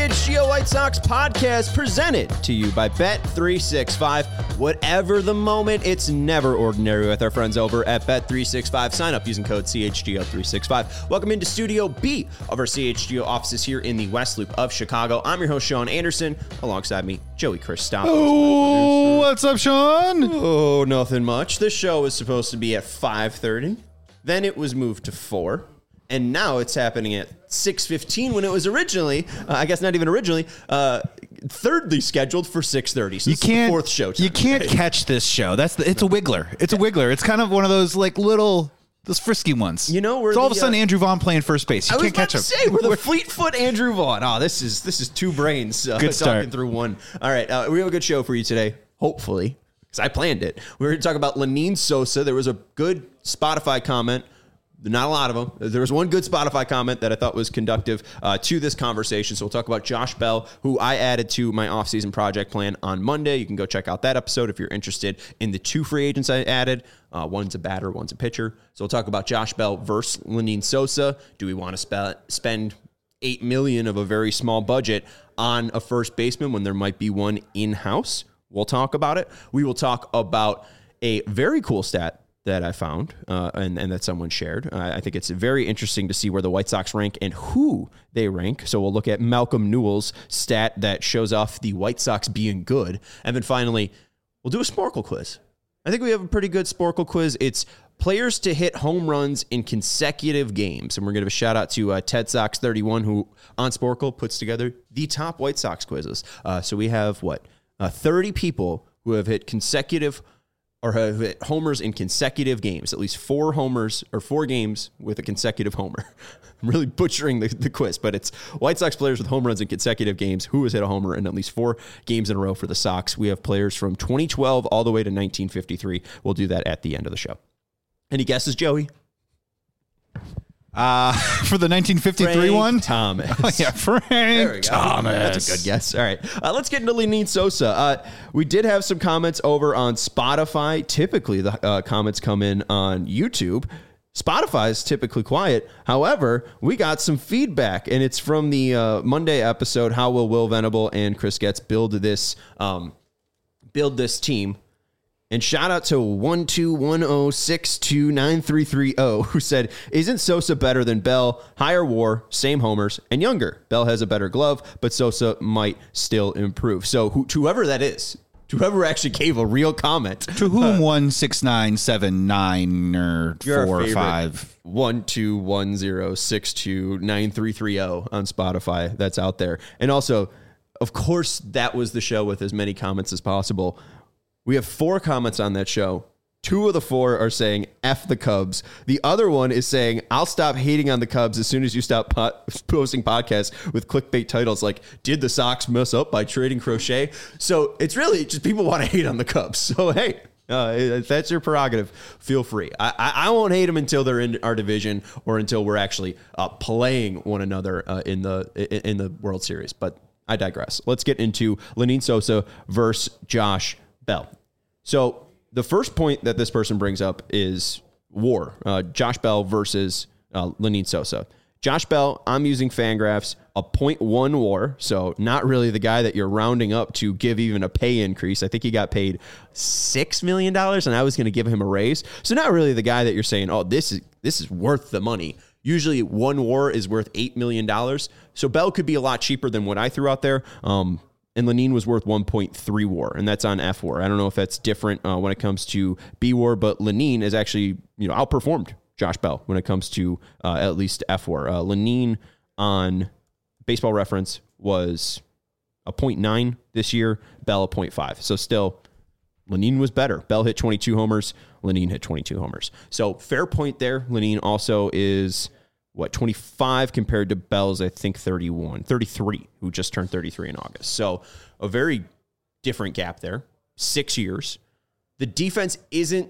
CHGO White Sox podcast presented to you by Bet365. Whatever the moment, it's never ordinary with our friends over at Bet365. Sign up using code CHGO365. Welcome into Studio B of our CHGO offices here in the West Loop of Chicago. I'm your host, Sean Anderson. Alongside me, Joey Christopoulos. Oh, what's up, Sean? Oh, nothing much. This show was supposed to be at 5:30. Then it was moved to 4. And now it's happening at 6:15 when it was originally, I guess not even originally, thirdly scheduled for 6:30. So it's the fourth show time. You can't catch this show. It's a wiggler. It's a wiggler. It's kind of one of those like those frisky ones. You know, all of a sudden Andrew Vaughn playing first base. You can't catch him. We're the Fleetfoot Andrew Vaughn. Oh, this is two brains good start. Talking through one. All right, we have a good show for you today, hopefully, because I planned it. We're going to talk about Lenyn Sosa. There was a good Spotify comment. Not a lot of them. There was one good Spotify comment that I thought was conductive to this conversation. So we'll talk about Josh Bell, who I added to my offseason project plan on Monday. You can go check out that episode if you're interested in the 2 free agents I added. One's a batter, one's a pitcher. So we'll talk about Josh Bell versus Lenyn Sosa. Do we want to spend $8 million of a very small budget on a first baseman when there might be one in-house? We'll talk about it. We will talk about a very cool stat that I found and that someone shared. I think it's very interesting to see where the White Sox rank and who they rank. So we'll look at Malcolm Newell's stat that shows off the White Sox being good. And then finally, we'll do a Sporkle quiz. I think we have a pretty good Sporkle quiz. It's players to hit home runs in consecutive games. And we're going to give a shout out to Ted Sox 31, who on Sporkle puts together the top White Sox quizzes. So we have 30 people who have hit consecutive or have hit homers in consecutive games, at least 4 homers or 4 games with a consecutive homer. I'm really butchering the quiz, but it's White Sox players with home runs in consecutive games who has hit a homer in at least 4 games in a row for the Sox. We have players from 2012 all the way to 1953. We'll do that at the end of the show. Any guesses, Joey? For the 1953 Frank one? Thomas. Oh, yeah, Frank Thomas. That's a good guess. All right. Let's get into Lenyn Sosa. We did have some comments over on Spotify. Typically, the comments come in on YouTube. Spotify is typically quiet. However, we got some feedback, and it's from the Monday episode, How Will Will Venable and Chris Getz build this team? And shout out to 12106293330 who said, isn't Sosa better than Bell? Higher WAR, same homers, and younger. Bell has a better glove, but Sosa might still improve. So whoever that is, whoever actually gave a real comment. To whom 16979 or 4 or 5. 12106293330 on Spotify. That's out there. And also, of course, that was the show with as many comments as possible. We have 4 comments on that show. 2 of the 4 are saying, F the Cubs. The other one is saying, I'll stop hating on the Cubs as soon as you stop posting podcasts with clickbait titles like, did the Sox mess up by trading Crochet? So it's really just people want to hate on the Cubs. So, hey, if that's your prerogative, feel free. I won't hate them until they're in our division or until we're actually playing one another in the World Series. But I digress. Let's get into Lenyn Sosa versus Josh Bell. So the first point that this person brings up is WAR, Josh Bell versus Lenyn Sosa. Josh Bell, I'm using Fangraphs, a 0.1 WAR, so not really the guy that you're rounding up to give even a pay increase. I think he got paid $6 million, and I was going to give him a raise. So not really the guy that you're saying, oh, this is worth the money. Usually 1 WAR is worth $8 million. So Bell could be a lot cheaper than what I threw out there. And Lenyn was worth 1.3 WAR, and that's on F WAR. I don't know if that's different when it comes to B WAR, but Lenyn is actually outperformed Josh Bell when it comes to at least F WAR. Lenyn on Baseball Reference was a 0.9 this year, Bell a 0.5. So still, Lenyn was better. Bell hit 22 homers, Lenyn hit 22 homers. So fair point there. Lenyn also is 25 compared to Bell's, I think, 33, who just turned 33 in August. So a very different gap there. 6 years. The defense isn't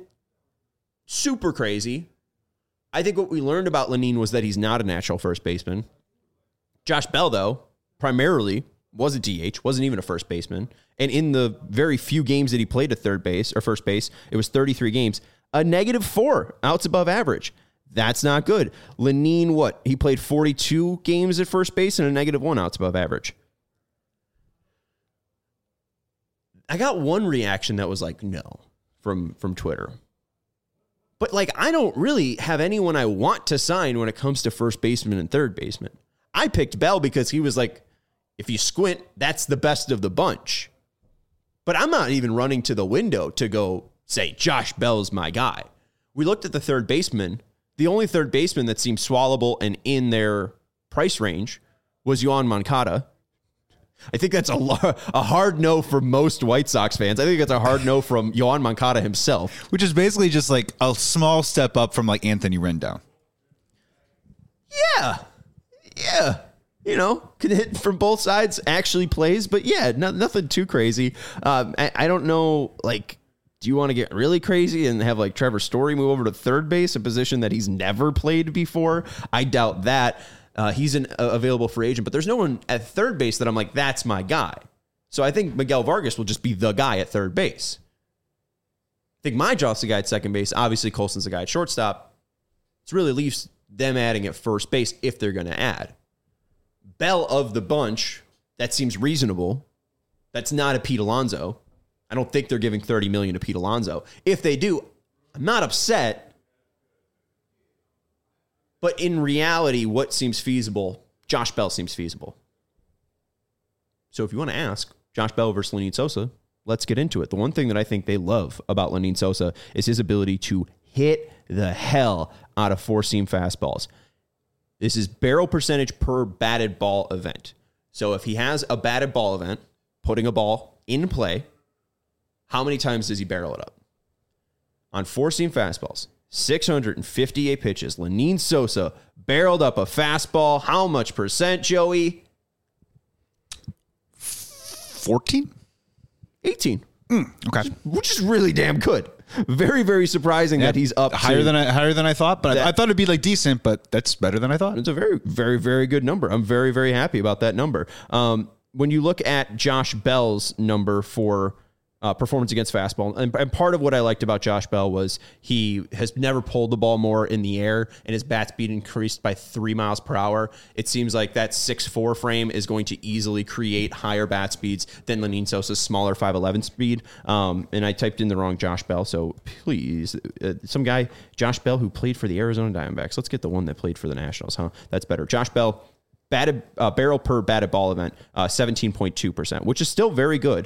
super crazy. I think what we learned about Lenyn was that he's not a natural first baseman. Josh Bell, though, primarily was a DH, wasn't even a first baseman. And in the very few games that he played at third base or first base, it was 33 games, a -4 outs above average. That's not good. Lenyn, he played 42 games at first base and a -1 outs above average. I got one reaction that was like, no, from Twitter. But like, I don't really have anyone I want to sign when it comes to first baseman and third baseman. I picked Bell because he was like, if you squint, that's the best of the bunch. But I'm not even running to the window to go say, Josh Bell's my guy. We looked at the third baseman. The only third baseman that seemed swallowable and in their price range was Yoan Moncada. I think that's a hard no for most White Sox fans. I think it's a hard no from Yoan Moncada himself. Which is basically just like a small step up from like Anthony Rendon. Yeah. You know, can hit from both sides, actually plays. But yeah, nothing too crazy. I don't know, like, do you want to get really crazy and have like Trevor Story move over to third base, a position that he's never played before? I doubt that. He's an available free agent, but there's no one at third base that I'm like, that's my guy. So I think Miguel Vargas will just be the guy at third base. I think Majdrov's the guy at second base. Obviously, Colson's the guy at shortstop. It really leaves them adding at first base if they're going to add. Bell of the bunch, that seems reasonable. That's not a Pete Alonso. I don't think they're giving $30 million to Pete Alonso. If they do, I'm not upset. But in reality, what seems feasible? Josh Bell seems feasible. So if you want to ask, Josh Bell versus Lenyn Sosa, let's get into it. The one thing that I think they love about Lenyn Sosa is his ability to hit the hell out of four-seam fastballs. This is barrel percentage per batted ball event. So if he has a batted ball event, putting a ball in play, how many times does he barrel it up? On four-seam fastballs, 658 pitches. Lenyn Sosa barreled up a fastball. How much percent, Joey? 14? 18. Okay. Which is really damn good. Very, very surprising that he's up higher than I thought, but I thought it'd be like decent, but that's better than I thought. It's a very, very, very good number. I'm very, very happy about that number. When you look at Josh Bell's number for performance against fastball, and part of what I liked about Josh Bell was he has never pulled the ball more in the air, and his bat speed increased by 3 miles per hour. It seems like that 6'4" frame is going to easily create higher bat speeds than Lenyn Sosa's smaller 5'11" speed. And I typed in the wrong Josh Bell, so please, some guy, Josh Bell, who played for the Arizona Diamondbacks. Let's get the one that played for the Nationals, huh? That's better. Josh Bell, batted barrel per batted ball event, 17.2%, which is still very good.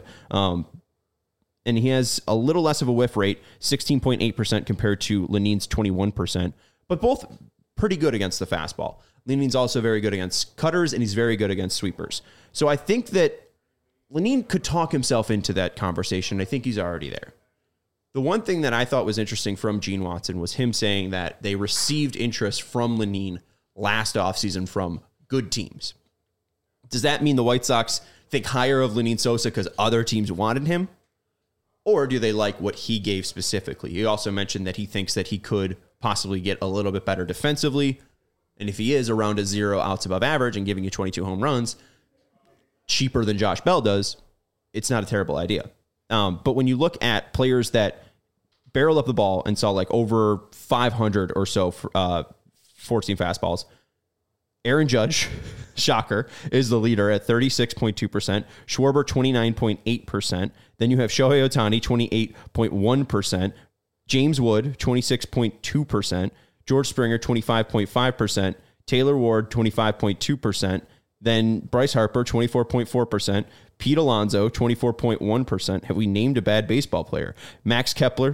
And he has a little less of a whiff rate, 16.8% compared to Lenyn's 21%, but both pretty good against the fastball. Lenyn's also very good against cutters, and he's very good against sweepers. So I think that Lenyn could talk himself into that conversation. I think he's already there. The one thing that I thought was interesting from Gene Watson was him saying that they received interest from Lenyn last offseason from good teams. Does that mean the White Sox think higher of Lenyn Sosa because other teams wanted him? Or do they like what he gave specifically? He also mentioned that he thinks that he could possibly get a little bit better defensively. And if he is around a 0 outs above average and giving you 22 home runs, cheaper than Josh Bell does, it's not a terrible idea. But when you look at players that barrel up the ball and saw like over 500 or so 14 fastballs, Aaron Judge, shocker, is the leader at 36.2%. Schwarber, 29.8%. Then you have Shohei Ohtani, 28.1%. James Wood, 26.2%. George Springer, 25.5%. Taylor Ward, 25.2%. Then Bryce Harper, 24.4%. Pete Alonso, 24.1%. Have we named a bad baseball player? Max Kepler,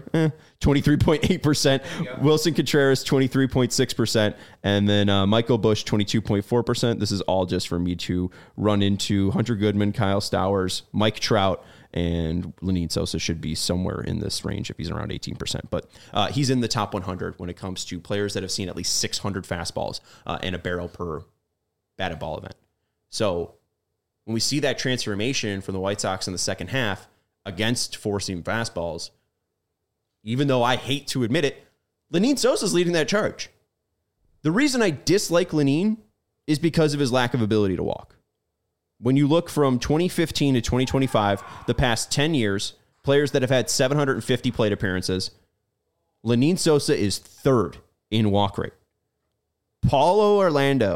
23.8%. Wilson Contreras, 23.6%. And then Michael Busch, 22.4%. This is all just for me to run into Hunter Goodman, Kyle Stowers, Mike Trout, and Lenyn Sosa should be somewhere in this range if he's around 18%. But he's in the top 100 when it comes to players that have seen at least 600 fastballs and a barrel per batted ball event. So when we see that transformation from the White Sox in the second half against four-seam fastballs, even though I hate to admit it, Lenyn Sosa's leading that charge. The reason I dislike Lenyn is because of his lack of ability to walk. When you look from 2015 to 2025, the past 10 years, players that have had 750 plate appearances, Lenyn Sosa is third in walk rate. Paulo Orlando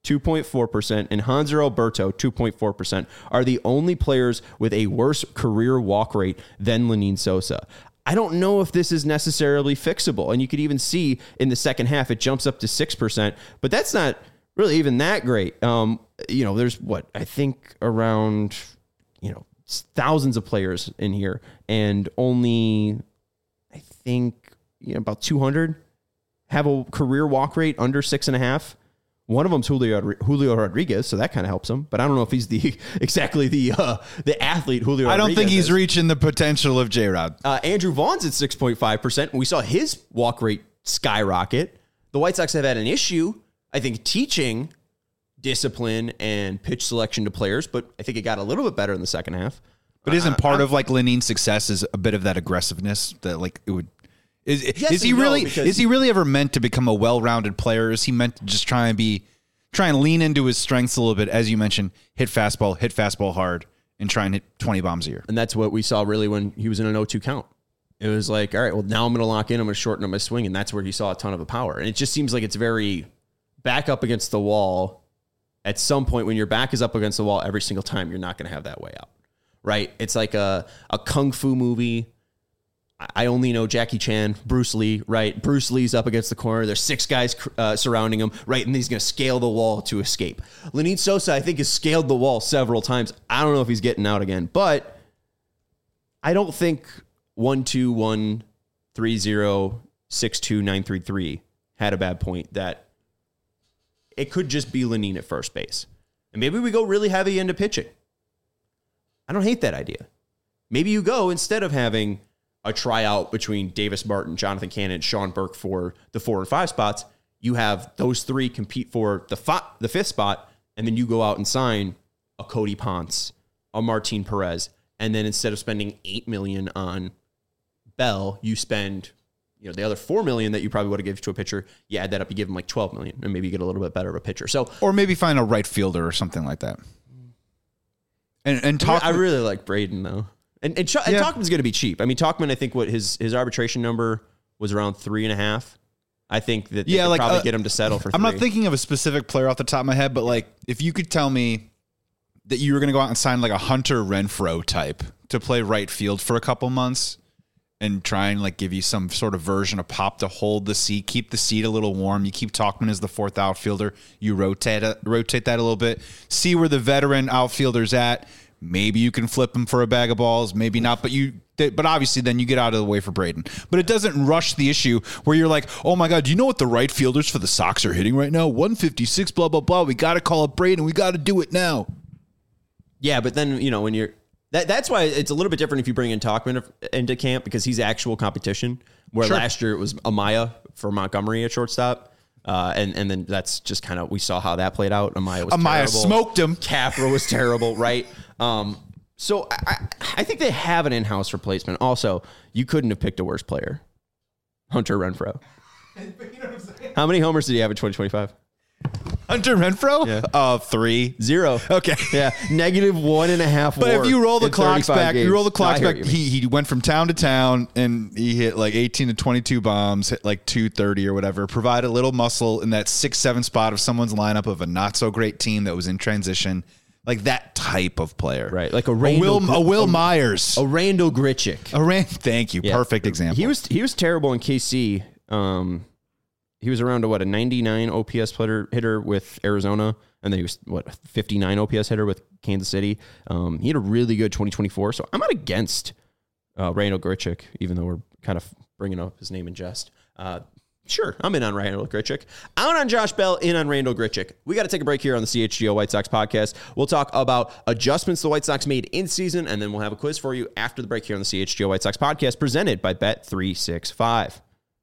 2.4%, and Hanser Alberto, 2.4%, are the only players with a worse career walk rate than Lenyn Sosa. I don't know if this is necessarily fixable. And you could even see in the second half, it jumps up to 6%, but that's not really even that great. There's I think around, thousands of players in here, and only, I think, about 200 have a career walk rate under 6.5. One of them's Julio Rodriguez, so that kind of helps him. But I don't know if he's exactly the athlete Julio Rodriguez I don't think he's is. Reaching the potential of J-Rod. Andrew Vaughn's at 6.5%, and we saw his walk rate skyrocket. The White Sox have had an issue, I think, teaching discipline and pitch selection to players, but I think it got a little bit better in the second half. But isn't part of Lenyn's success is a bit of that aggressiveness that it would... Is he really ever meant to become a well-rounded player? Is he meant to just try and lean into his strengths a little bit, as you mentioned, hit fastball hard, and try and hit 20 bombs a year? And that's what we saw really when he was in an 0-2 count. It was like, all right, well, now I'm going to lock in, I'm going to shorten up my swing, and that's where he saw a ton of the power. And it just seems like it's very back up against the wall. At some point, when your back is up against the wall every single time, you're not going to have that way out, right? It's like a kung fu movie. I only know Jackie Chan, Bruce Lee, right? Bruce Lee's up against the corner. There's 6 guys surrounding him, right? And he's going to scale the wall to escape. Lenyn Sosa, I think, has scaled the wall several times. I don't know if he's getting out again, but I don't think 1-2-1-3-0-6-2-9-3-3 had a bad point. That it could just be Lenyn at first base. And maybe we go really heavy into pitching. I don't hate that idea. Maybe you go, instead of having a tryout between Davis Martin, Jonathan Cannon, and Sean Burke for the 4 and 5 spots, you have those 3 compete for the 5th spot, and then you go out and sign a Cody Ponce, a Martin Perez, and then instead of spending $8 million on Bell, you spend the other $4 million that you probably would have given to a pitcher. You add that up, you give him like $12 million, and maybe you get a little bit better of a pitcher. So, or maybe find a right fielder or something like that. And talk. I really like Braden though. And Tauchman's going to be cheap. I mean, Tauchman, I think what his arbitration number was around 3.5. I think that they could probably get him to settle for 3. I'm not thinking of a specific player off the top of my head, but if you could tell me that you were going to go out and sign a Hunter Renfroe type to play right field for a couple months and try and give you some sort of version of pop to hold the seat, keep the seat a little warm. You keep Tauchman as the 4th outfielder. You rotate that a little bit. See where the veteran outfielder's at. Maybe you can flip him for a bag of balls, maybe not, but obviously then you get out of the way for Braden. But it doesn't rush the issue where you're like, oh my God, do you know what the right fielders for the Sox are hitting right now? 156, blah, blah, blah. We got to call up Braden. We got to do it now. Yeah, but then, when you're... That's why it's a little bit different if you bring in Tauchman into camp, because he's actual competition, where last year it was Amaya for Montgomery at shortstop. And then that's just kind of, we saw how that played out. Amaya terrible. Smoked him. Capra was terrible, right? So I think they have an in-house replacement. Also, you couldn't have picked a worse player. Hunter Renfroe. How many homers did he have in 2025? Hunter Renfroe? Yeah. 3. 0. Okay. Yeah. -1.5 But if you roll the clocks back, games. He went from town to town and he hit 18 to 22 bombs, hit 230 or whatever, provide a little muscle in that 6-7 spot of someone's lineup of a not so great team that was in transition. That type of player. Right. Like a Will Myers. A Randall Grichuk. Thank you. Yeah. Perfect example. He was terrible in KC. He was around a 99 OPS hitter with Arizona, and then he was a 59 OPS hitter with Kansas City. He had a really good 2024, so I'm not against Randall Grichuk, even though we're kind of bringing up his name in jest. Sure, I'm in on Randall Grichuk. Out on Josh Bell, in on Randall Grichuk. We got to take a break here on the CHGO White Sox podcast. We'll talk about adjustments the White Sox made in season, and then we'll have a quiz for you after the break here on the CHGO White Sox podcast, presented by Bet365.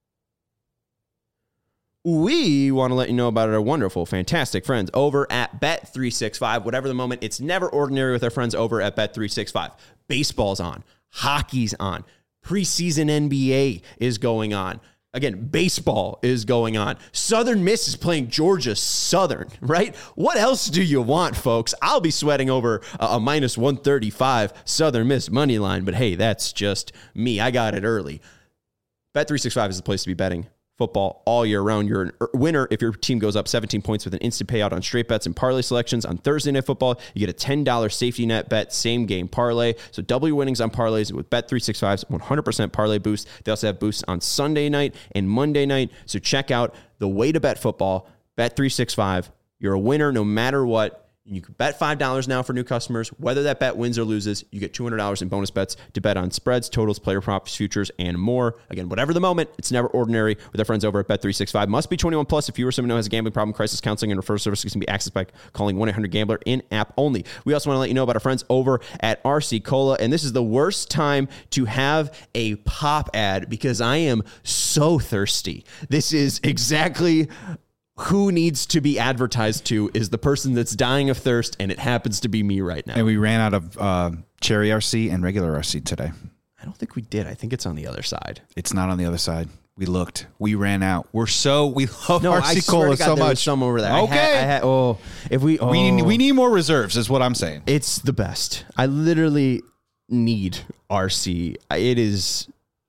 We want to let you know about our wonderful, fantastic friends over at Bet365. Whatever the moment, it's never ordinary with our friends over at Bet365. Baseball's on. Hockey's on. Preseason NBA is going on. Again, baseball is going on. Southern Miss is playing Georgia Southern, right? What else do you want, folks? I'll be sweating over a -135 Southern Miss money line, but hey, that's just me. I got it early. Bet365 is the place to be betting football all year round. You're a winner if your team goes up 17 points with an instant payout on straight bets and parlay selections. On Thursday Night Football, you get a $10 safety net bet, same game parlay. So double your winnings on parlays with Bet365's 100% parlay boost. They also have boosts on Sunday night and Monday night. So check out the way to bet football, Bet365. You're a winner no matter what. You can bet $5 now for new customers. Whether that bet wins or loses, you get $200 in bonus bets to bet on spreads, totals, player props, futures, and more. Again, whatever the moment, it's never ordinary with our friends over at Bet365. Must be 21 plus. If you or someone who has a gambling problem, crisis counseling, and referral services can be accessed by calling 1-800-GAMBLER in-app only. We also want to let you know about our friends over at RC Cola, and this is the worst time to have a pop ad because I am so thirsty. This is exactly who needs to be advertised to is the person that's dying of thirst, and it happens to be me right now. And we ran out of cherry RC and regular RC today. I don't think we did. I think it's on the other side. It's not on the other side. We looked. We ran out. We love RC swear Cola to God, so there was much. some over there. Okay. We need more reserves is what I'm saying. It's the best. I literally need RC. It is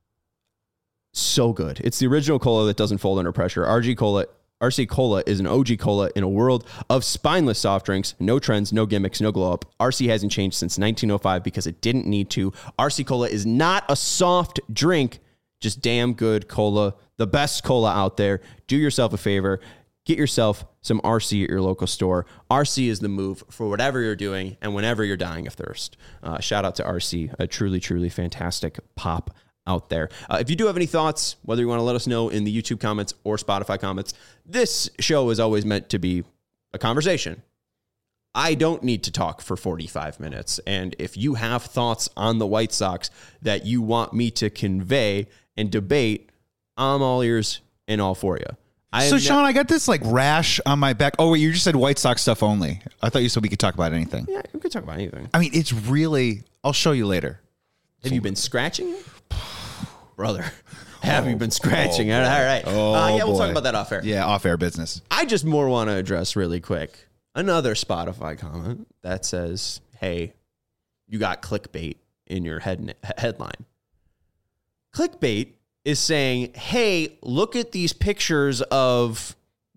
so good. It's the original cola that doesn't fold under pressure. RC Cola is an OG cola in a world of spineless soft drinks. No trends, no gimmicks, no glow up. RC hasn't changed since 1905 because it didn't need to. RC Cola is not a soft drink, just damn good cola. The best cola out there. Do yourself a favor. Get yourself some RC at your local store. RC is the move for whatever you're doing and whenever you're dying of thirst. Shout out to RC, a truly, truly fantastic pop out there. If you do have any thoughts, whether you want to let us know in the YouTube comments or Spotify comments, this show is always meant to be a conversation. I don't need to talk for 45 minutes. And if you have thoughts on the White Sox that you want me to convey and debate, I'm all ears and all for you. Sean, I got this like rash on my back. Oh, wait, you just said White Sox stuff only. I thought you said we could talk about anything. Yeah, we could talk about anything. I mean, it's really, I'll show you later. Have you been scratching it? Brother, have you been scratching? All right. We'll talk about that off air. Yeah, off air business. I just more want to address really quick another Spotify comment that says, hey, you got clickbait in your headline. Clickbait is saying, hey, look at these pictures of,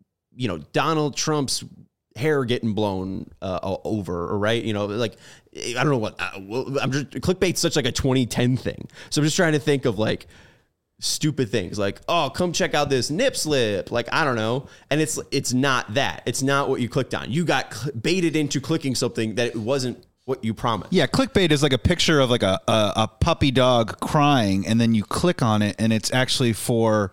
Donald Trump's hair getting blown over, right? Like, I don't know what, I'm just, clickbait's such like a 2010 thing. So I'm just trying to think of like stupid things like, oh, come check out this nip slip. Like, I don't know. And it's not that. It's not what you clicked on. You got baited into clicking something that wasn't what you promised. Yeah, clickbait is like a picture of like a puppy dog crying, and then you click on it, and it's actually for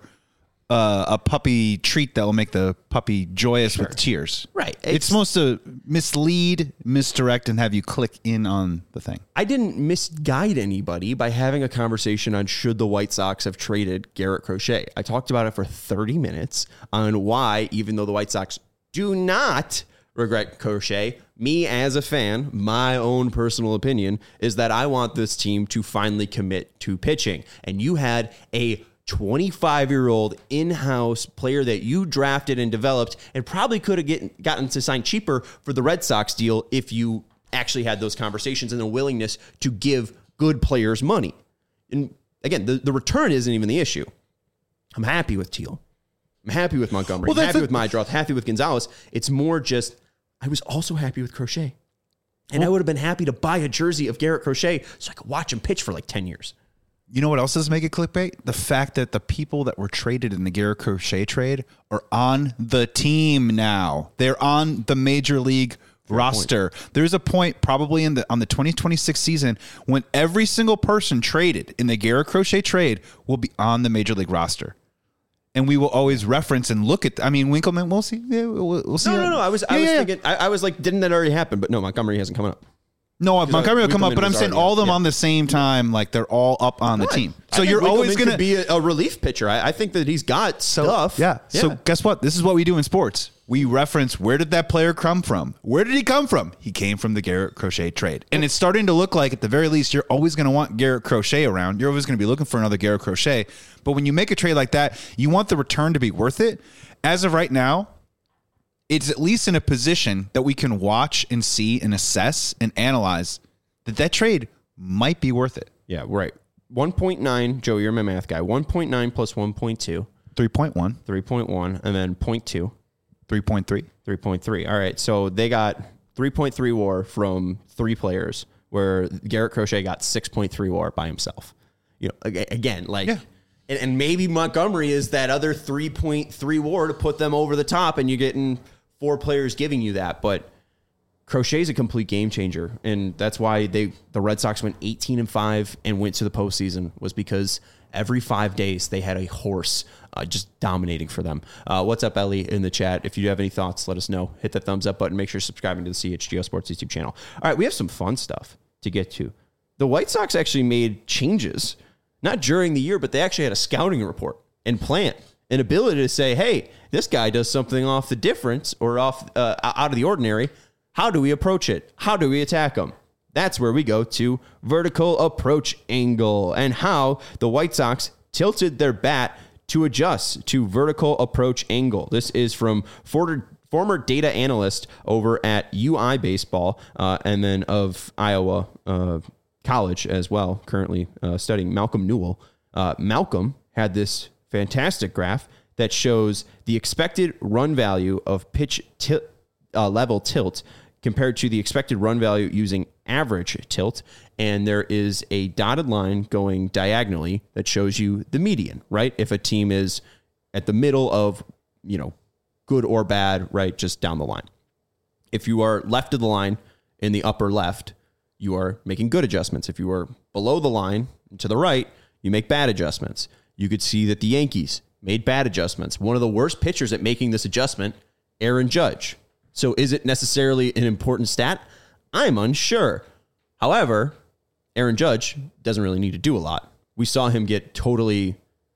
a puppy treat that will make the puppy joyous with tears. Right. It's supposed to mislead, misdirect, and have you click in on the thing. I didn't misguide anybody by having a conversation on should the White Sox have traded Garrett Crochet. I talked about it for 30 minutes on why, even though the White Sox do not regret Crochet, me as a fan, my own personal opinion is that I want this team to finally commit to pitching. And you had a 25-year-old in-house player that you drafted and developed and probably could have gotten to sign cheaper for the Red Sox deal if you actually had those conversations and the willingness to give good players money. And again, the return isn't even the issue. I'm happy with Teal. I'm happy with Montgomery. I'm happy with Mydroth. Happy with Gonzalez. It's more just, I was also happy with Crochet. And I would have been happy to buy a jersey of Garrett Crochet so I could watch him pitch for like 10 years. You know what else does make it clickbait? The fact that the people that were traded in the Garrett Crochet trade are on the team now. They're on the major league roster. There's a point probably on the 2026 season when every single person traded in the Garrett Crochet trade will be on the major league roster. And we will always reference and look at, Winkleman, we'll see. Yeah, we'll see. No. I was thinking, I was like, didn't that already happen? But no, Montgomery hasn't come up. No, Montgomery will come up, but I'm saying all of them on the same time, like they're all up on the team. So you're always going to be a relief pitcher. I think that he's got stuff. Yeah. So guess what? This is what we do in sports. We reference, where did that player come from? Where did he come from? He came from the Garrett Crochet trade. And it's starting to look like, at the very least, you're always going to want Garrett Crochet around. You're always going to be looking for another Garrett Crochet. But when you make a trade like that, you want the return to be worth it. As of right now, it's at least in a position that we can watch and see and assess and analyze that trade might be worth it. Yeah, right. 1.9, Joe, you're my math guy. 1.9 plus 1.2 3.1. 3.1, and then 0.2. 3.3. 3.3. All right. So they got 3.3 WAR from 3 players, where Garrett Crochet got 6.3 WAR by himself. You know, again, like, and maybe Montgomery is that other 3.3 WAR to put them over the top, and you're getting 4 players giving you that. But Crochet's a complete game changer, and that's why the Red Sox went 18-5 and went to the postseason, was because every 5 days they had a horse just dominating for them. What's up, Ellie, in the chat? If you have any thoughts, let us know. Hit the thumbs up button. Make sure you're subscribing to the CHGO Sports YouTube channel. All right, we have some fun stuff to get to. The White Sox actually made changes, not during the year, but they actually had a scouting report and plan, an ability to say, hey, this guy does something off the difference or off out of the ordinary. How do we approach it? How do we attack him? That's where we go to vertical approach angle and how the White Sox tilted their bat to adjust to vertical approach angle. This is from former data analyst over at UI Baseball and then of Iowa College as well, currently studying, Malcolm Newell. Malcolm had this fantastic graph that shows the expected run value of pitch level tilt compared to the expected run value using average tilt. And there is a dotted line going diagonally that shows you the median, right? If a team is at the middle of, you know, good or bad, right? Just down the line. If you are left of the line in the upper left, you are making good adjustments. If you are below the line to the right, you make bad adjustments. You could see that the Yankees made bad adjustments. One of the worst pitchers at making this adjustment, Aaron Judge. So is it necessarily an important stat? I'm unsure. However, Aaron Judge doesn't really need to do a lot. We saw him get totally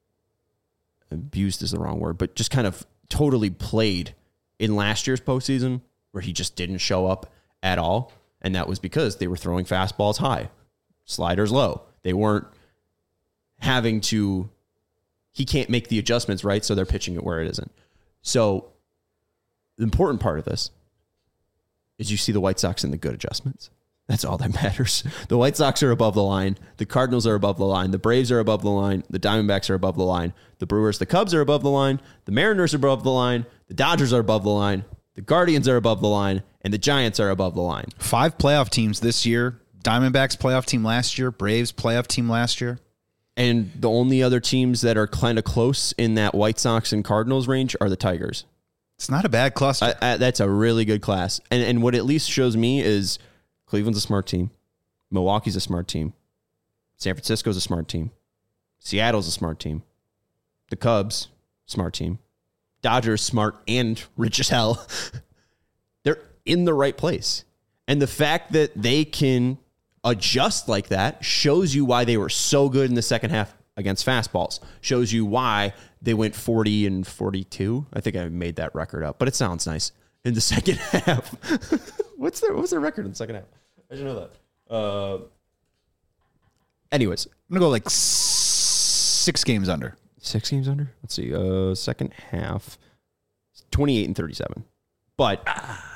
abused is the wrong word, but just kind of totally played in last year's postseason where he just didn't show up at all. And that was because they were throwing fastballs high, sliders low. They weren't having to, he can't make the adjustments, right? So they're pitching it where it isn't. So the important part of this is you see the White Sox in the good adjustments. That's all that matters. The White Sox are above the line. The Cardinals are above the line. The Braves are above the line. The Diamondbacks are above the line. The Brewers, the Cubs are above the line. The Mariners are above the line. The Dodgers are above the line. The Guardians are above the line. And the Giants are above the line. 5 playoff teams this year. Diamondbacks playoff team last year. Braves playoff team last year. And the only other teams that are kind of close in that White Sox and Cardinals range are the Tigers. It's not a bad cluster. That's a really good class. And what it at least shows me is Cleveland's a smart team. Milwaukee's a smart team. San Francisco's a smart team. Seattle's a smart team. The Cubs, smart team. Dodgers, smart and rich as hell. They're in the right place. And the fact that they can adjust like that shows you why they were so good in the second half against fastballs. Shows you why they went 40-42. I think I made that record up, but it sounds nice. In the second half. What's their record in the second half? I should know that. Anyways. I'm going to go like 6 games under. 6 games under? Let's see. Second half. 28-37. But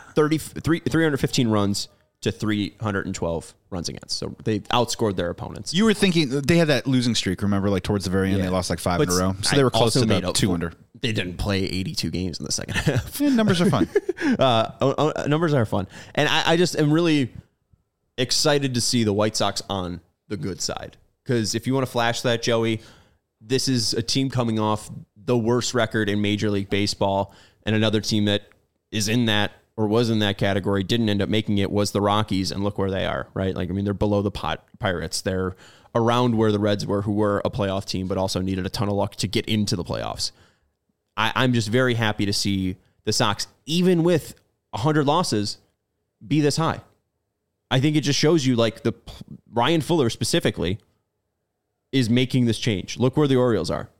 315 runs to 312 runs against. So they outscored their opponents. You were thinking they had that losing streak, remember, like towards the very end, they lost like 5 in a row. So they were close to the 2 under. They didn't play 82 games in the second half. Yeah, numbers are fun. Numbers are fun. And I just am really excited to see the White Sox on the good side. Because if you want to flash that, Joey, this is a team coming off the worst record in Major League Baseball. And another team that is in that or was in that category, didn't end up making it, was the Rockies, and look where they are, right? Like, I mean, they're below the Pirates. They're around where the Reds were, who were a playoff team, but also needed a ton of luck to get into the playoffs. I'm just very happy to see the Sox, even with 100 losses, be this high. I think it just shows you, like, the Ryan Fuller specifically is making this change. Look where the Orioles are.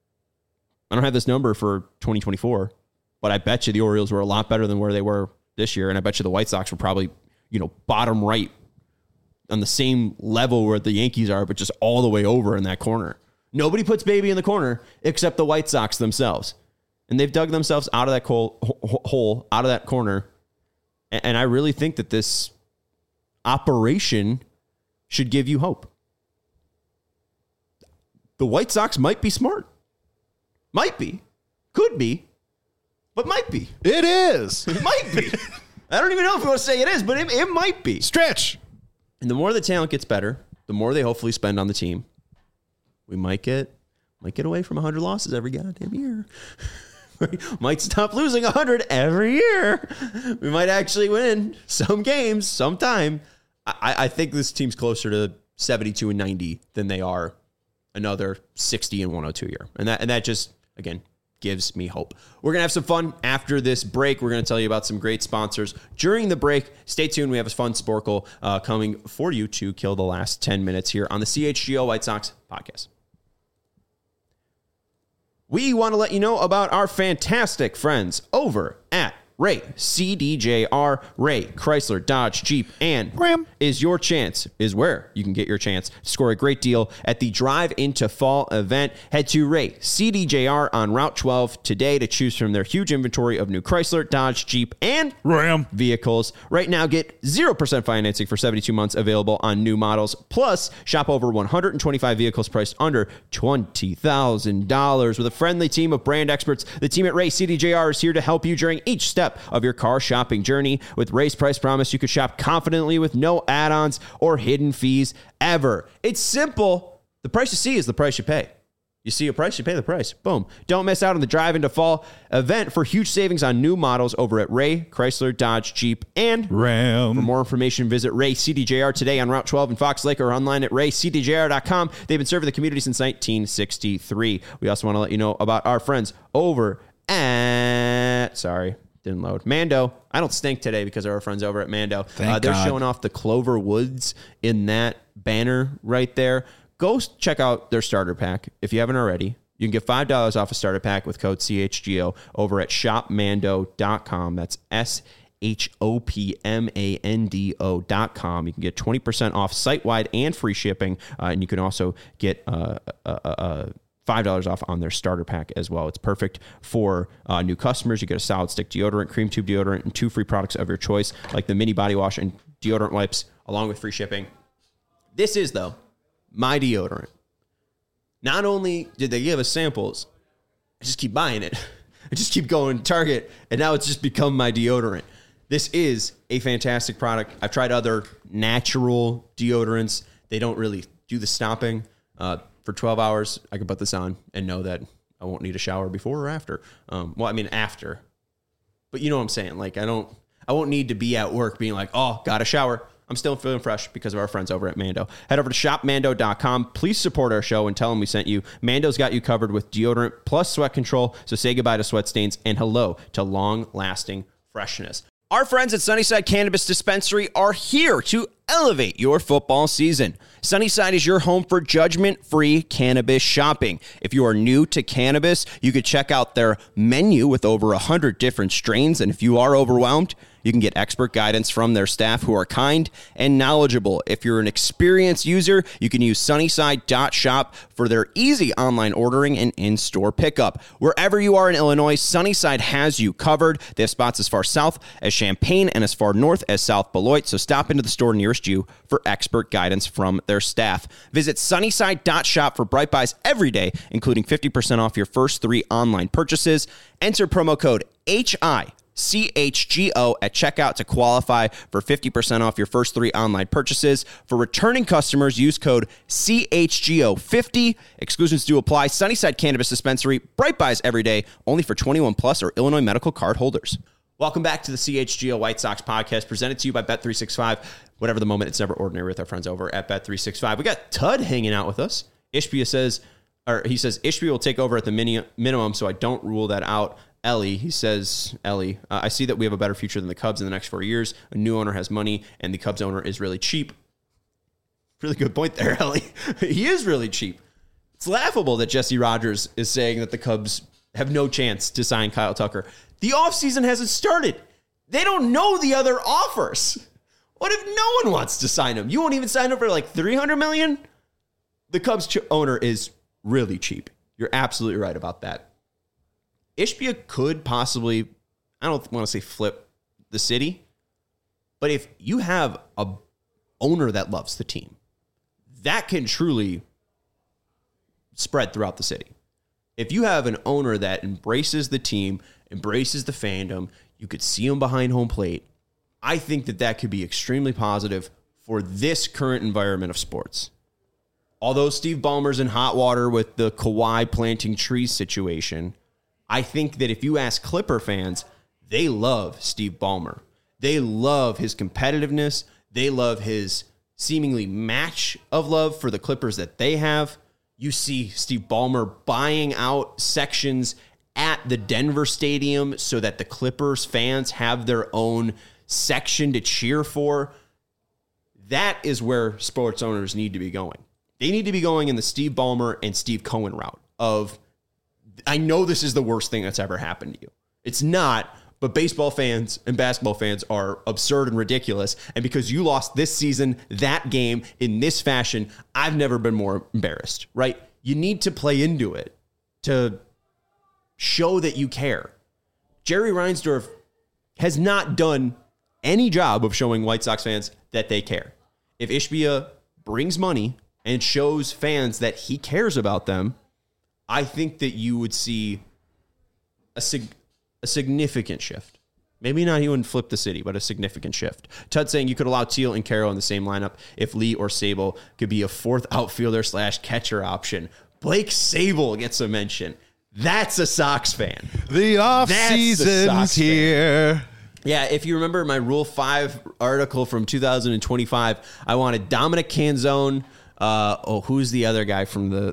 I don't have this number for 2024, but I bet you the Orioles were a lot better than where they were this year. And I bet you the White Sox were probably, bottom right on the same level where the Yankees are, but just all the way over in that corner. Nobody puts baby in the corner except the White Sox themselves. And they've dug themselves out of that hole, out of that corner. And I really think that this operation should give you hope. The White Sox might be smart. Might be. Could be. But might be. It is. It might be. I don't even know if we want to say it is, but it might be. Stretch. And the more the talent gets better, the more they hopefully spend on the team. We might get away from 100 losses every goddamn year. We might stop losing 100 every year. We might actually win some games sometime. I think this team's closer to 72 and 90 than they are another 60 and 102 year. And that just, again, gives me hope. We're going to have some fun after this break. We're going to tell you about some great sponsors during the break. Stay tuned. We have a fun Sporkle coming for you to kill the last 10 minutes here on the CHGO White Sox podcast. We want to let you know about our fantastic friends over at Ray CDJR. Ray Chrysler Dodge Jeep and Ram is where you can get your chance to score a great deal at the Drive into Fall event. Head to Ray CDJR on Route 12 today to choose from their huge inventory of new Chrysler, Dodge, Jeep, and Ram vehicles. Right now, get 0% financing for 72 months available on new models. Plus, shop over 125 vehicles priced under $20,000 with a friendly team of brand experts. The team at Ray CDJR is here to help you during each step of your car shopping journey. With Ray's Price Promise, you can shop confidently with no add-ons or hidden fees ever. It's simple. The price you see is the price you pay. You see a price, you pay the price. Boom. Don't miss out on the Drive into Fall event for huge savings on new models over at Ray Chrysler Dodge Jeep and Ram. For more information, visit Ray CDJR today on Route 12 in Fox Lake or online at raycdjr.com. They've been serving the community since 1963. We also want to let you know about our friends over at... Didn't load. Mando. I don't stink today because of our friends over at Mando. They're showing off the Clover Woods in that banner right there. Go check out their starter pack if you haven't already. You can get $5 off a starter pack with code CHGO over at shopmando.com. That's shopmando.com. You can get 20% off site-wide and free shipping, and you can also get $5 off on their starter pack as well. It's perfect for new customers. You get a solid stick deodorant, cream tube deodorant, and 2 free products of your choice, like the mini body wash and deodorant wipes, along with free shipping. This is, though, my deodorant. Not only did they give us samples, I just keep buying it. I just keep going to Target, and now it's just become my deodorant. This is a fantastic product. I've tried other natural deodorants. They don't really do the stopping. For 12 hours, I can put this on and know that I won't need a shower before or after. After. But you know what I'm saying? Like, I won't need to be at work being like, oh, got a shower. I'm still feeling fresh because of our friends over at Mando. Head over to shopmando.com. Please support our show and tell them we sent you. Mando's got you covered with deodorant plus sweat control. So say goodbye to sweat stains and hello to long-lasting freshness. Our friends at Sunnyside Cannabis Dispensary are here to elevate your football season. Sunnyside is your home for judgment-free cannabis shopping. If you are new to cannabis, you could check out their menu with over 100 different strains. And if you are overwhelmed, you can get expert guidance from their staff who are kind and knowledgeable. If you're an experienced user, you can use Sunnyside.shop for their easy online ordering and in-store pickup. Wherever you are in Illinois, Sunnyside has you covered. They have spots as far south as Champaign and as far north as South Beloit. So stop into the store nearest you for expert guidance from their staff. Visit Sunnyside.shop for Bright Buys every day, including 50% off your first 3 online purchases. Enter promo code HICHGO at checkout to qualify for 50% off your first 3 online purchases. For returning customers, use code CHGO50. Exclusions do apply. Sunnyside Cannabis Dispensary, Bright Buys every day, only for 21 plus or Illinois medical card holders. Welcome back to the CHGO White Sox podcast, presented to you by Bet365. Whatever the moment, it's never ordinary with our friends over at Bet365. We got Tud hanging out with us. Ishbia says Ishbia will take over at the minimum, so I don't rule that out. Ellie, I see that we have a better future than the Cubs in the next 4 years. A new owner has money, and the Cubs owner is really cheap. Really good point there, Ellie. He is really cheap. It's laughable that Jesse Rogers is saying that the Cubs have no chance to sign Kyle Tucker. The offseason hasn't started. They don't know the other offers. What if no one wants to sign him? You won't even sign him for like $300 million? The Cubs owner is really cheap. You're absolutely right about that. Ishbia could possibly, I don't want to say flip the city, but if you have a owner that loves the team, that can truly spread throughout the city. If you have an owner that embraces the team, embraces the fandom, you could see them behind home plate, I think that could be extremely positive for this current environment of sports. Although Steve Ballmer's in hot water with the Kawhi planting trees situation, I think that if you ask Clipper fans, they love Steve Ballmer. They love his competitiveness. They love his seemingly match of love for the Clippers that they have. You see Steve Ballmer buying out sections at the Denver Stadium so that the Clippers fans have their own section to cheer for. That is where sports owners need to be going. They need to be going in the Steve Ballmer and Steve Cohen route of, I know this is the worst thing that's ever happened to you. It's not, but baseball fans and basketball fans are absurd and ridiculous. And because you lost this season, that game in this fashion, I've never been more embarrassed, right? You need to play into it to show that you care. Jerry Reinsdorf has not done any job of showing White Sox fans that they care. If Ishbia brings money and shows fans that he cares about them, I think that you would see a significant shift. Maybe not he wouldn't flip the city, but a significant shift. Tud saying you could allow Teal and Caro in the same lineup if Lee or Sable could be a fourth outfielder / catcher option. Blake Sable gets a mention. That's a Sox fan. The off-season's here. Yeah, if you remember my Rule 5 article from 2025, I wanted Dominic Canzone. Who's the other guy from the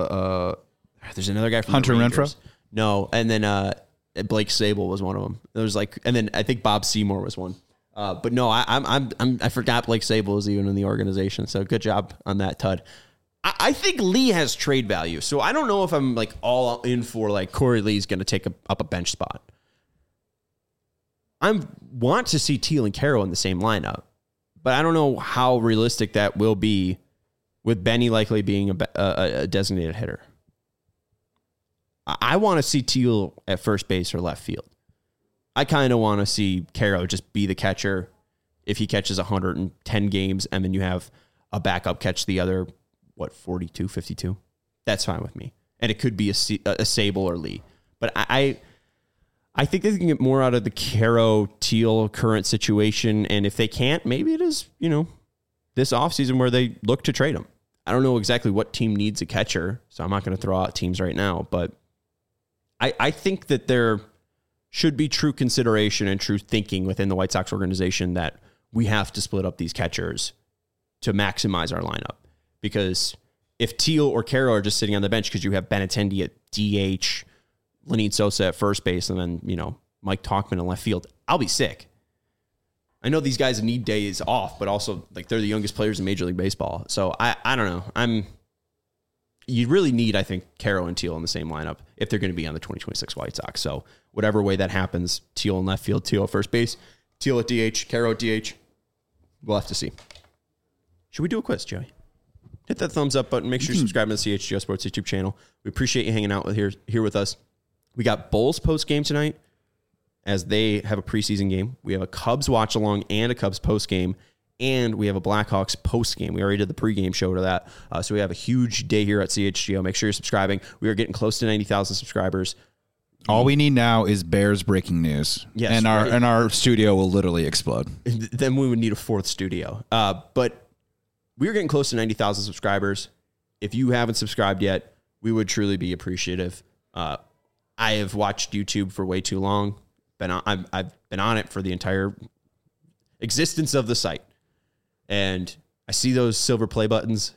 there's another guy from Hunter the Rangers. Renfroe? No, and then Blake Sable was one of them. There was and then I think Bob Seymour was one. But no, I forgot Blake Sable was even in the organization. So good job on that, Tud. I think Lee has trade value. So I don't know if I'm all in for Corey Lee's going to take up a bench spot. I want to see Teal and Caro in the same lineup, but I don't know how realistic that will be with Benny likely being a designated hitter. I want to see Teal at first base or left field. I kind of want to see Caro just be the catcher if he catches 110 games and then you have a backup catch the other, 42, 52? That's fine with me. And it could be a Sable or Lee. But I think they can get more out of the Caro-Teal current situation. And if they can't, maybe it is, this offseason where they look to trade him. I don't know exactly what team needs a catcher, so I'm not going to throw out teams right now. But I think that there should be true consideration and true thinking within the White Sox organization that we have to split up these catchers to maximize our lineup. Because if Teal or Caro are just sitting on the bench because you have Benintendi at DH, Lenyn Sosa at first base, and then, Mike Tauchman in left field, I'll be sick. I know these guys need days off, but also they're the youngest players in Major League Baseball. So I don't know. You really need, I think, Caro and Teal in the same lineup if they're going to be on the 2026 White Sox. So whatever way that happens, Teal in left field, Teal at first base, Teal at DH, Caro at DH, we'll have to see. Should we do a quiz, Joey? Hit that thumbs up button. Make sure you subscribe to the CHGO Sports YouTube channel. We appreciate you hanging out here with us. We got Bulls post game tonight as they have a preseason game. We have a Cubs watch along and a Cubs post game, and we have a Blackhawks post game. We already did the pregame show to that. So we have a huge day here at CHGO. Make sure you're subscribing. We are getting close to 90,000 subscribers. All we need now is Bears breaking news. Yes, and right. our studio will literally explode. Then we would need a fourth studio. But we're getting close to 90,000 subscribers. If you haven't subscribed yet, we would truly be appreciative. I have watched YouTube for way too long. I've been on it for the entire existence of the site. And I see those silver play buttons.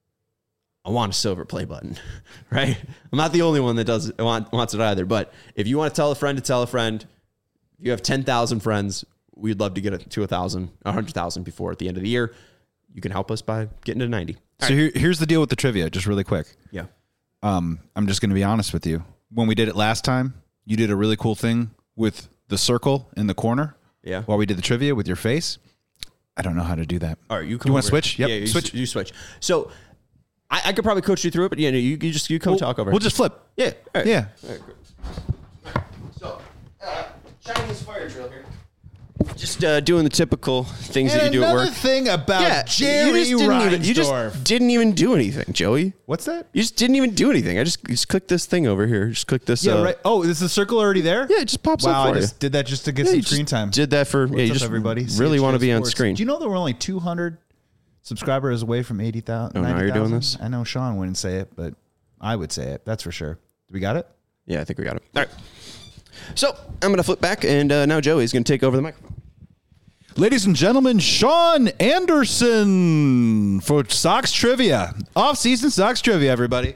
I want a silver play button, right? I'm not the only one that wants it either. But if you want to tell a friend, if you have 10,000 friends, we'd love to get it to 100,000 before at the end of the year. You can help us by getting to 90. So here's the deal with the trivia, just really quick. Yeah. I'm just going to be honest with you. When we did it last time, you did a really cool thing with the circle in the corner. Yeah. While we did the trivia with your face. I don't know how to do that. All right, you want to switch? Yep. Yeah, switch. You switch. So I could probably coach you through it, but you come talk over. We'll just flip. Yeah. All right. Yeah. All right, great. So Chinese fire drill here. Just doing the typical things And that you do at another work. thing about Jerry you just Reinsdorf. didn't even do anything, Joey. What's that? You just didn't even do anything. I just click this thing over here. Just click this. Yeah, right. Oh, is the circle already there? Yeah, it just pops Wow, up for I just did that just to get you. some You just screen time. Did that for What's you up, just everybody? really want to be on Sports. screen. Do you know that we're only 200 subscribers away from 80,000? Oh, now you're doing this? I know Sean wouldn't say it, but I would say it. That's for sure. Do we got it? Yeah, I think we got it. All right. So I'm going to flip back, and now Joey's going to take over the microphone. Ladies and gentlemen, Sean Anderson for Sox Trivia. Off-season Sox Trivia, everybody.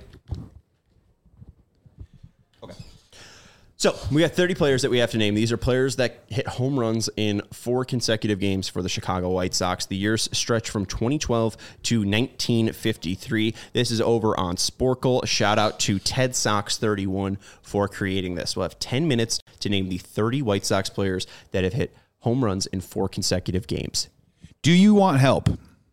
So we got 30 players that we have to name. These are players that hit home runs in 4 consecutive games for the Chicago White Sox. The years stretch from 2012 to 1953. This is over on Sporkle. Shout out to Ted Sox 31 for creating this. We'll have 10 minutes to name the 30 White Sox players that have hit home runs in 4 consecutive games. Do you want help?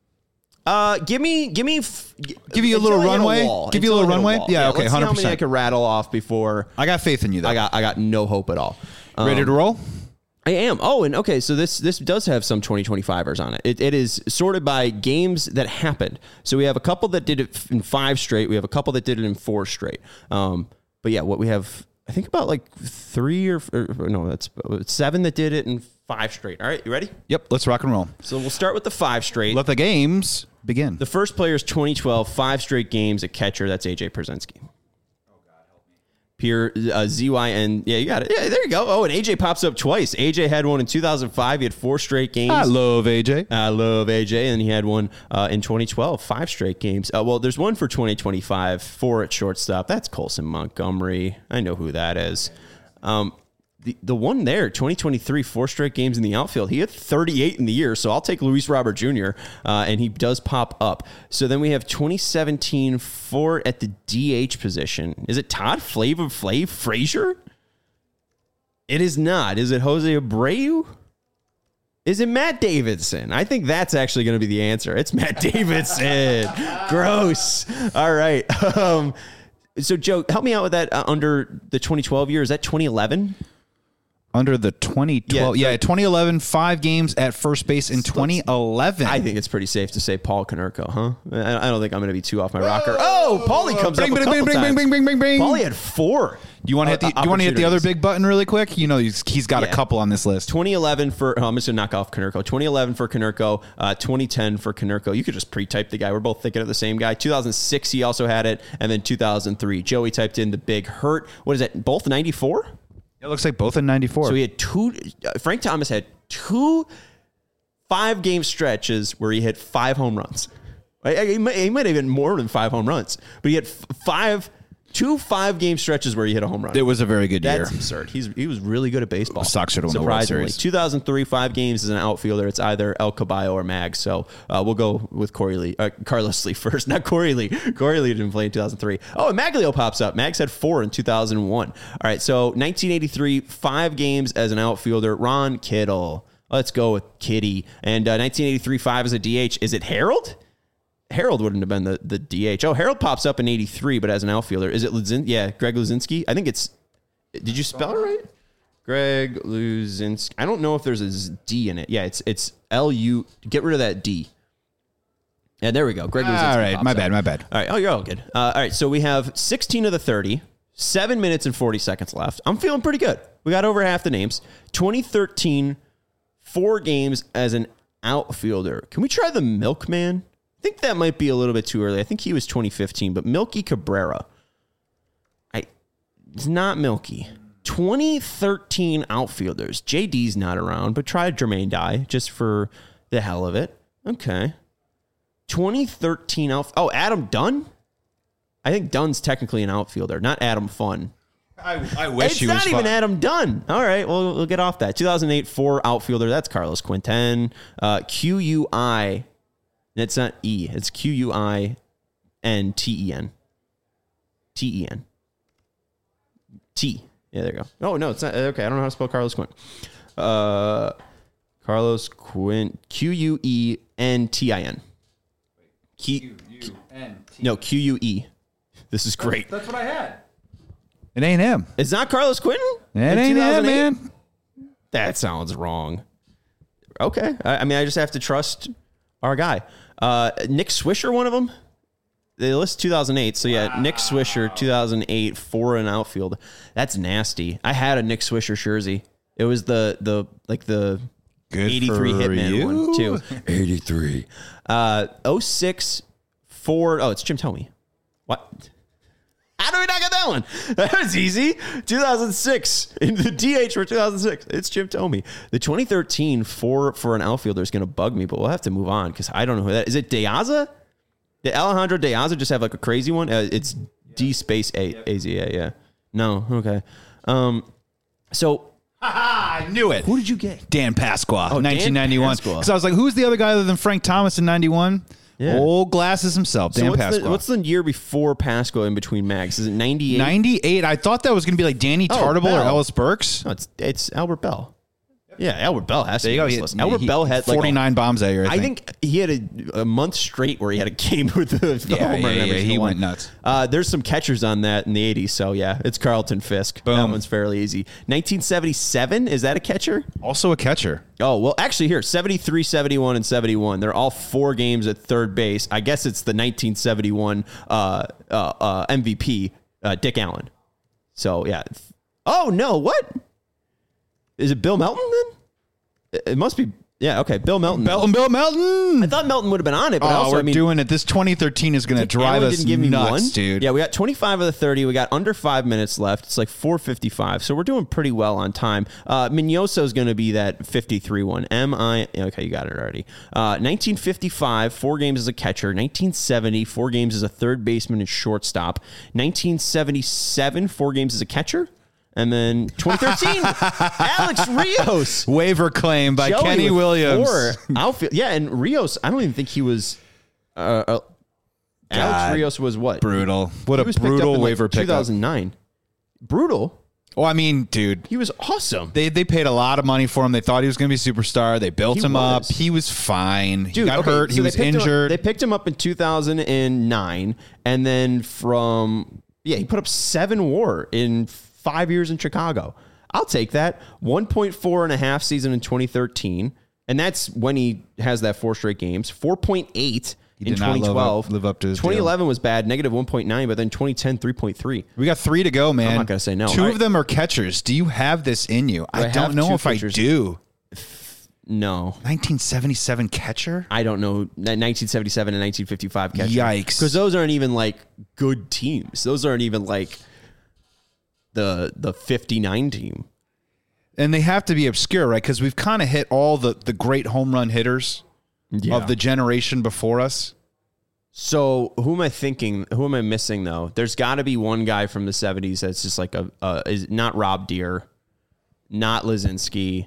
Give you a little runway? Give you a little runway? Yeah, okay, let's see how many 100%. I could rattle off before. I got faith in you, though. I got no hope at all. Ready to roll? I am. Oh, and okay, so this does have some 2025ers on it. It is sorted by games that happened. So we have a couple that did it in 5 straight. We have a couple that did it in 4 straight. But yeah, what we have, I think about like 3 or no, that's 7 that did it in 5 straight. All right, you ready? Yep, let's rock and roll. So we'll start with the 5 straight. Let the games begin. The first player is 2012, 5 straight games at catcher. That's AJ Pierzynski. Oh, God, help me. Pierre, ZYN. Yeah, you got it. Yeah, there you go. Oh, and AJ pops up twice. AJ had one in 2005. He had 4 straight games. I love AJ. And he had one in 2012, 5 straight games. Well, there's one for 2025, 4 at shortstop. That's Colson Montgomery. I know who that is. The one there, 2023, 4 straight games in the outfield. He had 38 in the year, so I'll take Luis Robert Jr., and he does pop up. So then we have 2017, 4 at the DH position. Is it Todd Flav Frazier? It is not. Is it Jose Abreu? Is it Matt Davidson? I think that's actually going to be the answer. It's Matt Davidson. Gross. All right. So, Joe, help me out with that under the 2012 year. Is that 2011? Under the 2012. Yeah, 2011, 5 games at first base in 2011. I think it's pretty safe to say Paul Konerko, huh? I don't think I'm going to be too off my rocker. Oh, Paulie comes up a couple times. Paulie had 4. Do you want to hit the other big button really quick? You know, he's got a couple on this list. 2011 for, I'm just going to knock off Konerko. 2011 for Konerko, 2010 for Konerko. You could just pre-type the guy. We're both thinking of the same guy. 2006, he also had it. And then 2003, Joey typed in the big hurt. What is that? Both 94? It looks like both in 94. So he had 2, Frank Thomas had 2 5-game stretches where he hit 5 home runs. He might have had more than 5 home runs, but he had 2 5-game stretches where he hit a home run. It was a very good year. That's absurd. He was really good at baseball. The Sox should have won the World Surprisingly. Series. 2003, 5 games as an outfielder. It's either El Caballo or Mags. So we'll go with Carlos Lee first. Not Corey Lee. Corey Lee didn't play in 2003. Oh, and Maglio pops up. Mags had 4 in 2001. All right, so 1983, 5 games as an outfielder. Ron Kittle. Let's go with Kitty. And 1983, 5 as a DH. Is it Harold? Harold wouldn't have been the DH. Oh, Harold pops up in 83, but as an outfielder. Is it Greg Luzinski? I think it's... Did you spell it right? Greg Luzinski. I don't know if there's a D in it. Yeah, it's L-U... Get rid of that D. Yeah, there we go. Greg Luzinski. All right, my bad. All right. Oh, you're all good. All right, so we have 16 of the 30, 7 minutes and 40 seconds left. I'm feeling pretty good. We got over half the names. 2013, 4 games as an outfielder. Can we try the Milkman? I think that might be a little bit too early. I think he was 2015, but Milky Cabrera. It's not Milky. 2013 outfielders. JD's not around, but try Jermaine Dye just for the hell of it. Okay. 2013 Oh, Adam Dunn? I think Dunn's technically an outfielder, not Adam Fun. I wish it's he was not even Adam Dunn. All right, well, we'll get off that. 2008 4 outfielder. That's Carlos Quinten. QUI. It's not E. It's QUINTEN. TEN. T. Yeah, there you go. Oh, no, it's not. Okay, I don't know how to spell Carlos Quint. Carlos Quint. QUENTIN. No, QUE. This is great. That's what I had. It ain't him. It's not Carlos Quinton? It ain't him, man. That sounds wrong. Okay. I mean, I just have to trust our guy. Nick Swisher, one of them. They list 2008. So, yeah, Nick Swisher, 2008, 4 in outfield. That's nasty. I had a Nick Swisher jersey. It was the Good 83 Hitman one, too. 83. 06, 4. Oh, it's Jim Thome. What? How do we not get that one? That was easy. 2006. In the DH for 2006. It's Jim Thome. The 2013 4 for an outfielder is going to bug me, but we'll have to move on because I don't know who that is. It Deaza? Did Alejandro Deaza just have like a crazy one? It's D space A-Z-A, yeah. No, okay. So... I knew it. Who did you get? Dan Pasqua, 1991. Dan Pasqua. Because I was like, who's the other guy other than Frank Thomas in 91? Yeah. Old glasses himself, Dan Pasqua. What's the year before Pasqua in between Mags? Is it 98? 98. I thought that was going to be like Danny Tartable or Ellis Burks. No, it's Albert Bell. Yeah, Albert Bell has to be on this list. He- Albert Bell had like 49 bombs that year, I think he had a month straight where he had a game with the homer and every he single went one. nuts. There's some catchers on that in the 80s, so yeah, it's Carlton Fisk. Boom. That one's fairly easy. 1977, is that a catcher? Also a catcher. Oh, well, actually here, 73, 71, and 71. They're all 4 games at third base. I guess it's the 1971 MVP, Dick Allen. So, yeah. Oh, no, what? Is it Bill Melton then? It must be. Yeah, okay. Bill Melton. Bill Melton. I thought Melton would have been on it, but also, we're I mean, doing it. This 2013 is going to drive Allen us didn't give me nuts, one. dude. Yeah, we got 25 of the 30. We got under 5 minutes left. It's like 4:55, so we're doing pretty well on time. Mignoso is going to be that 53 one. Okay, you got it already. 1955, 4 games as a catcher. 1970, 4 games as a third baseman and shortstop. 1977, 4 games as a catcher. And then 2013, Alex Rios. Waiver claim by Joey Kenny with Williams. 4 outfield. Yeah, and Rios, I don't even think he was... Alex Rios was what? Brutal. What He a was picked up brutal in, waiver like, pickup. 2009. Brutal? Oh, I mean, dude. He was awesome. They paid a lot of money for him. They thought he was going to be a superstar. They built He him up. was. He was fine. He Dude, got okay, hurt. so He they was picked him up- injured. They picked him up in 2009, and then he put up 7 WAR in 5 years in Chicago. I'll take that. 1.4 and a half season in 2013, and that's when he has that 4 straight games. 4.8 in did not 2012. live up to his 2011 was bad, negative 1.9, but then 2010, 3.3. We got 3 to go, man. I'm not gonna say no. 2 of them are catchers. Do you have this in you? I have don't know 2 if catchers? I do. No. 1977 catcher? I don't know. 1977 and 1955 catcher. Yikes. Because those aren't even like good teams. Those aren't even like the 59 team. And they have to be obscure, right? Because we've kind of hit all the great home run hitters of the generation before us. So who am I thinking? Who am I missing though? There's got to be one guy from the 70s that's just like is not Rob Deere, not Lizinski,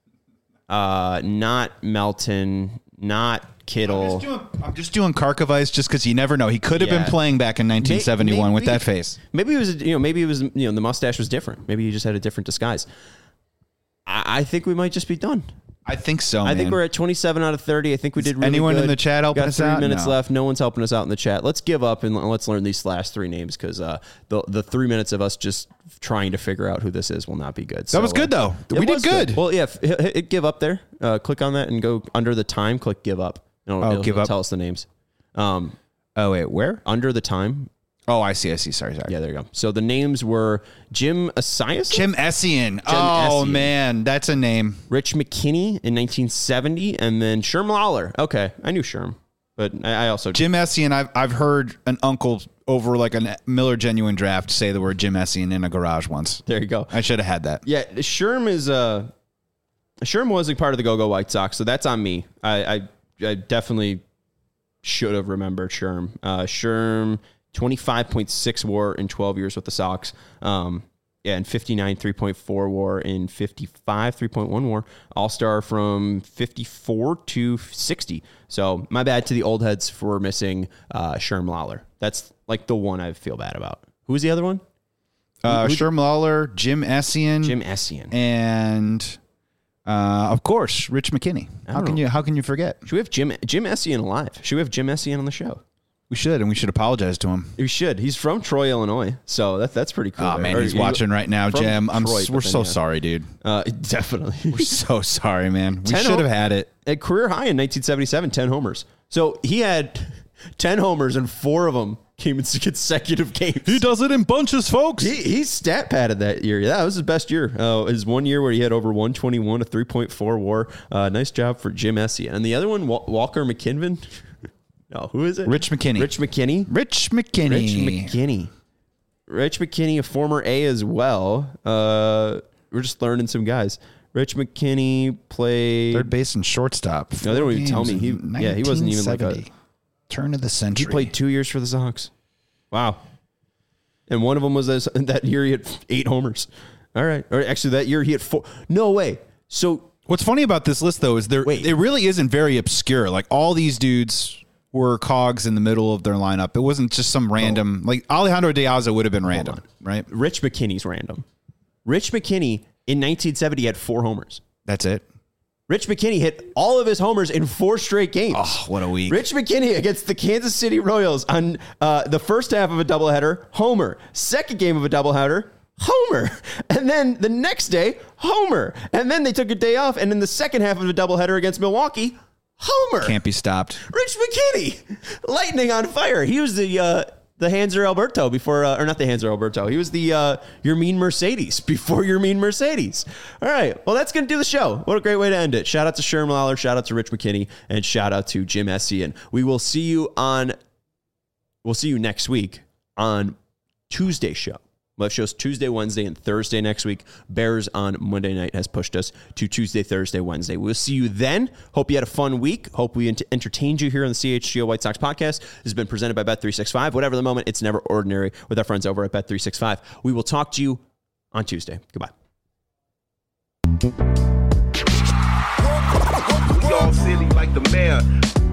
not Melton, not Kittle. I'm just doing Karkovice just because you never know. He could have been playing back in 1971 with that face. Maybe it was, the mustache was different. Maybe he just had a different disguise. I think we might just be done. I think so, I think we're at 27 out of 30. I think we did really Anyone good. in the chat helping Got us 3 out? minutes No. left. No one's helping us out in the chat. Let's give up and let's learn these last 3 names because the 3 minutes of us just trying to figure out who this is will not be good. That was good, though. We did good. Well, yeah, hit give up there. Click on that and go under the time. Click give up. It'll give up. Tell us the names. Oh, wait, where? Under the time. Oh, I see. Sorry. Yeah, there you go. So the names were Jim Esiason? Jim Essien. Essien. Man, that's a name. Rich McKinney in 1970, and then Sherm Lawler. Okay, I knew Sherm, but I also... Jim Essien, I've heard an uncle over like a Miller Genuine Draft say the word Jim Essien in a garage once. There you go. I should have had that. Yeah, Sherm was a part of the Go-Go White Sox, so that's on me. I definitely should have remembered Sherm. Sherm... 25.6 WAR in 12 years with the Sox. And 59 3.4 WAR in 55 3.1 WAR. All-star from 54 to 60. So my bad to the old heads for missing Sherm Lawler. That's like the one I feel bad about. Who was the other one? Sherm Lawler, Jim Essien, and of course Rich McKinney. How can you forget? Should we have Jim Essien alive? Should we have Jim Essien on the show? We should, and we should apologize to him. You should. He's from Troy, Illinois, so that's pretty cool. Oh, man, he's watching right now, Jim. We're so sorry, dude. Definitely. We're so sorry, man. We 10 should have had it. At career high in 1977, 10 homers. So he had 10 homers, and 4 of them came in consecutive games. He does it in bunches, folks. He stat padded that year. Yeah, that was his best year. His one year where he had over 121, a 3.4 WAR. Nice job for Jim Essien. And the other one, Walker McKinnon. No, who is it? Rich McKinney. Rich McKinney, a former A as well. We're just learning some guys. Rich McKinney played third base and shortstop. No, they don't even tell me. He wasn't even like a turn of the century. He played 2 years for the Sox. Wow. And one of them was that year he had 8 homers. All right. Or actually, that year he had 4. No way. So what's funny about this list, though, is it really isn't very obscure. Like, all these dudes were cogs in the middle of their lineup. It wasn't just some random, like Alejandro De Aza would have been random, right? Rich McKinney's random. Rich McKinney in 1970 had 4 homers. That's it. Rich McKinney hit all of his homers in 4 straight games. Oh, what a week. Rich McKinney against the Kansas City Royals on the first half of a doubleheader, homer. Second game of a doubleheader, homer. And then the next day, homer. And then they took a day off, and in the second half of a doubleheader against Milwaukee, homer. Can't be stopped. Rich McKinney, lightning on fire. He was the Hanser Alberto before, or not the Hanser Alberto. He was the Your Mean Mercedes before Your Mean Mercedes. All right. Well, that's going to do the show. What a great way to end it. Shout out to Sherm Lawler. Shout out to Rich McKinney. And shout out to Jim Essien. We'll see you next week on Tuesday's show. We'll have shows Tuesday, Wednesday, and Thursday next week. Bears on Monday night has pushed us to Tuesday, Thursday, Wednesday. We'll see you then. Hope you had a fun week. Hope we entertained you here on the CHGO White Sox podcast. This has been presented by Bet365. Whatever the moment, it's never ordinary with our friends over at Bet365. We will talk to you on Tuesday. Goodbye. We all silly like the mayor.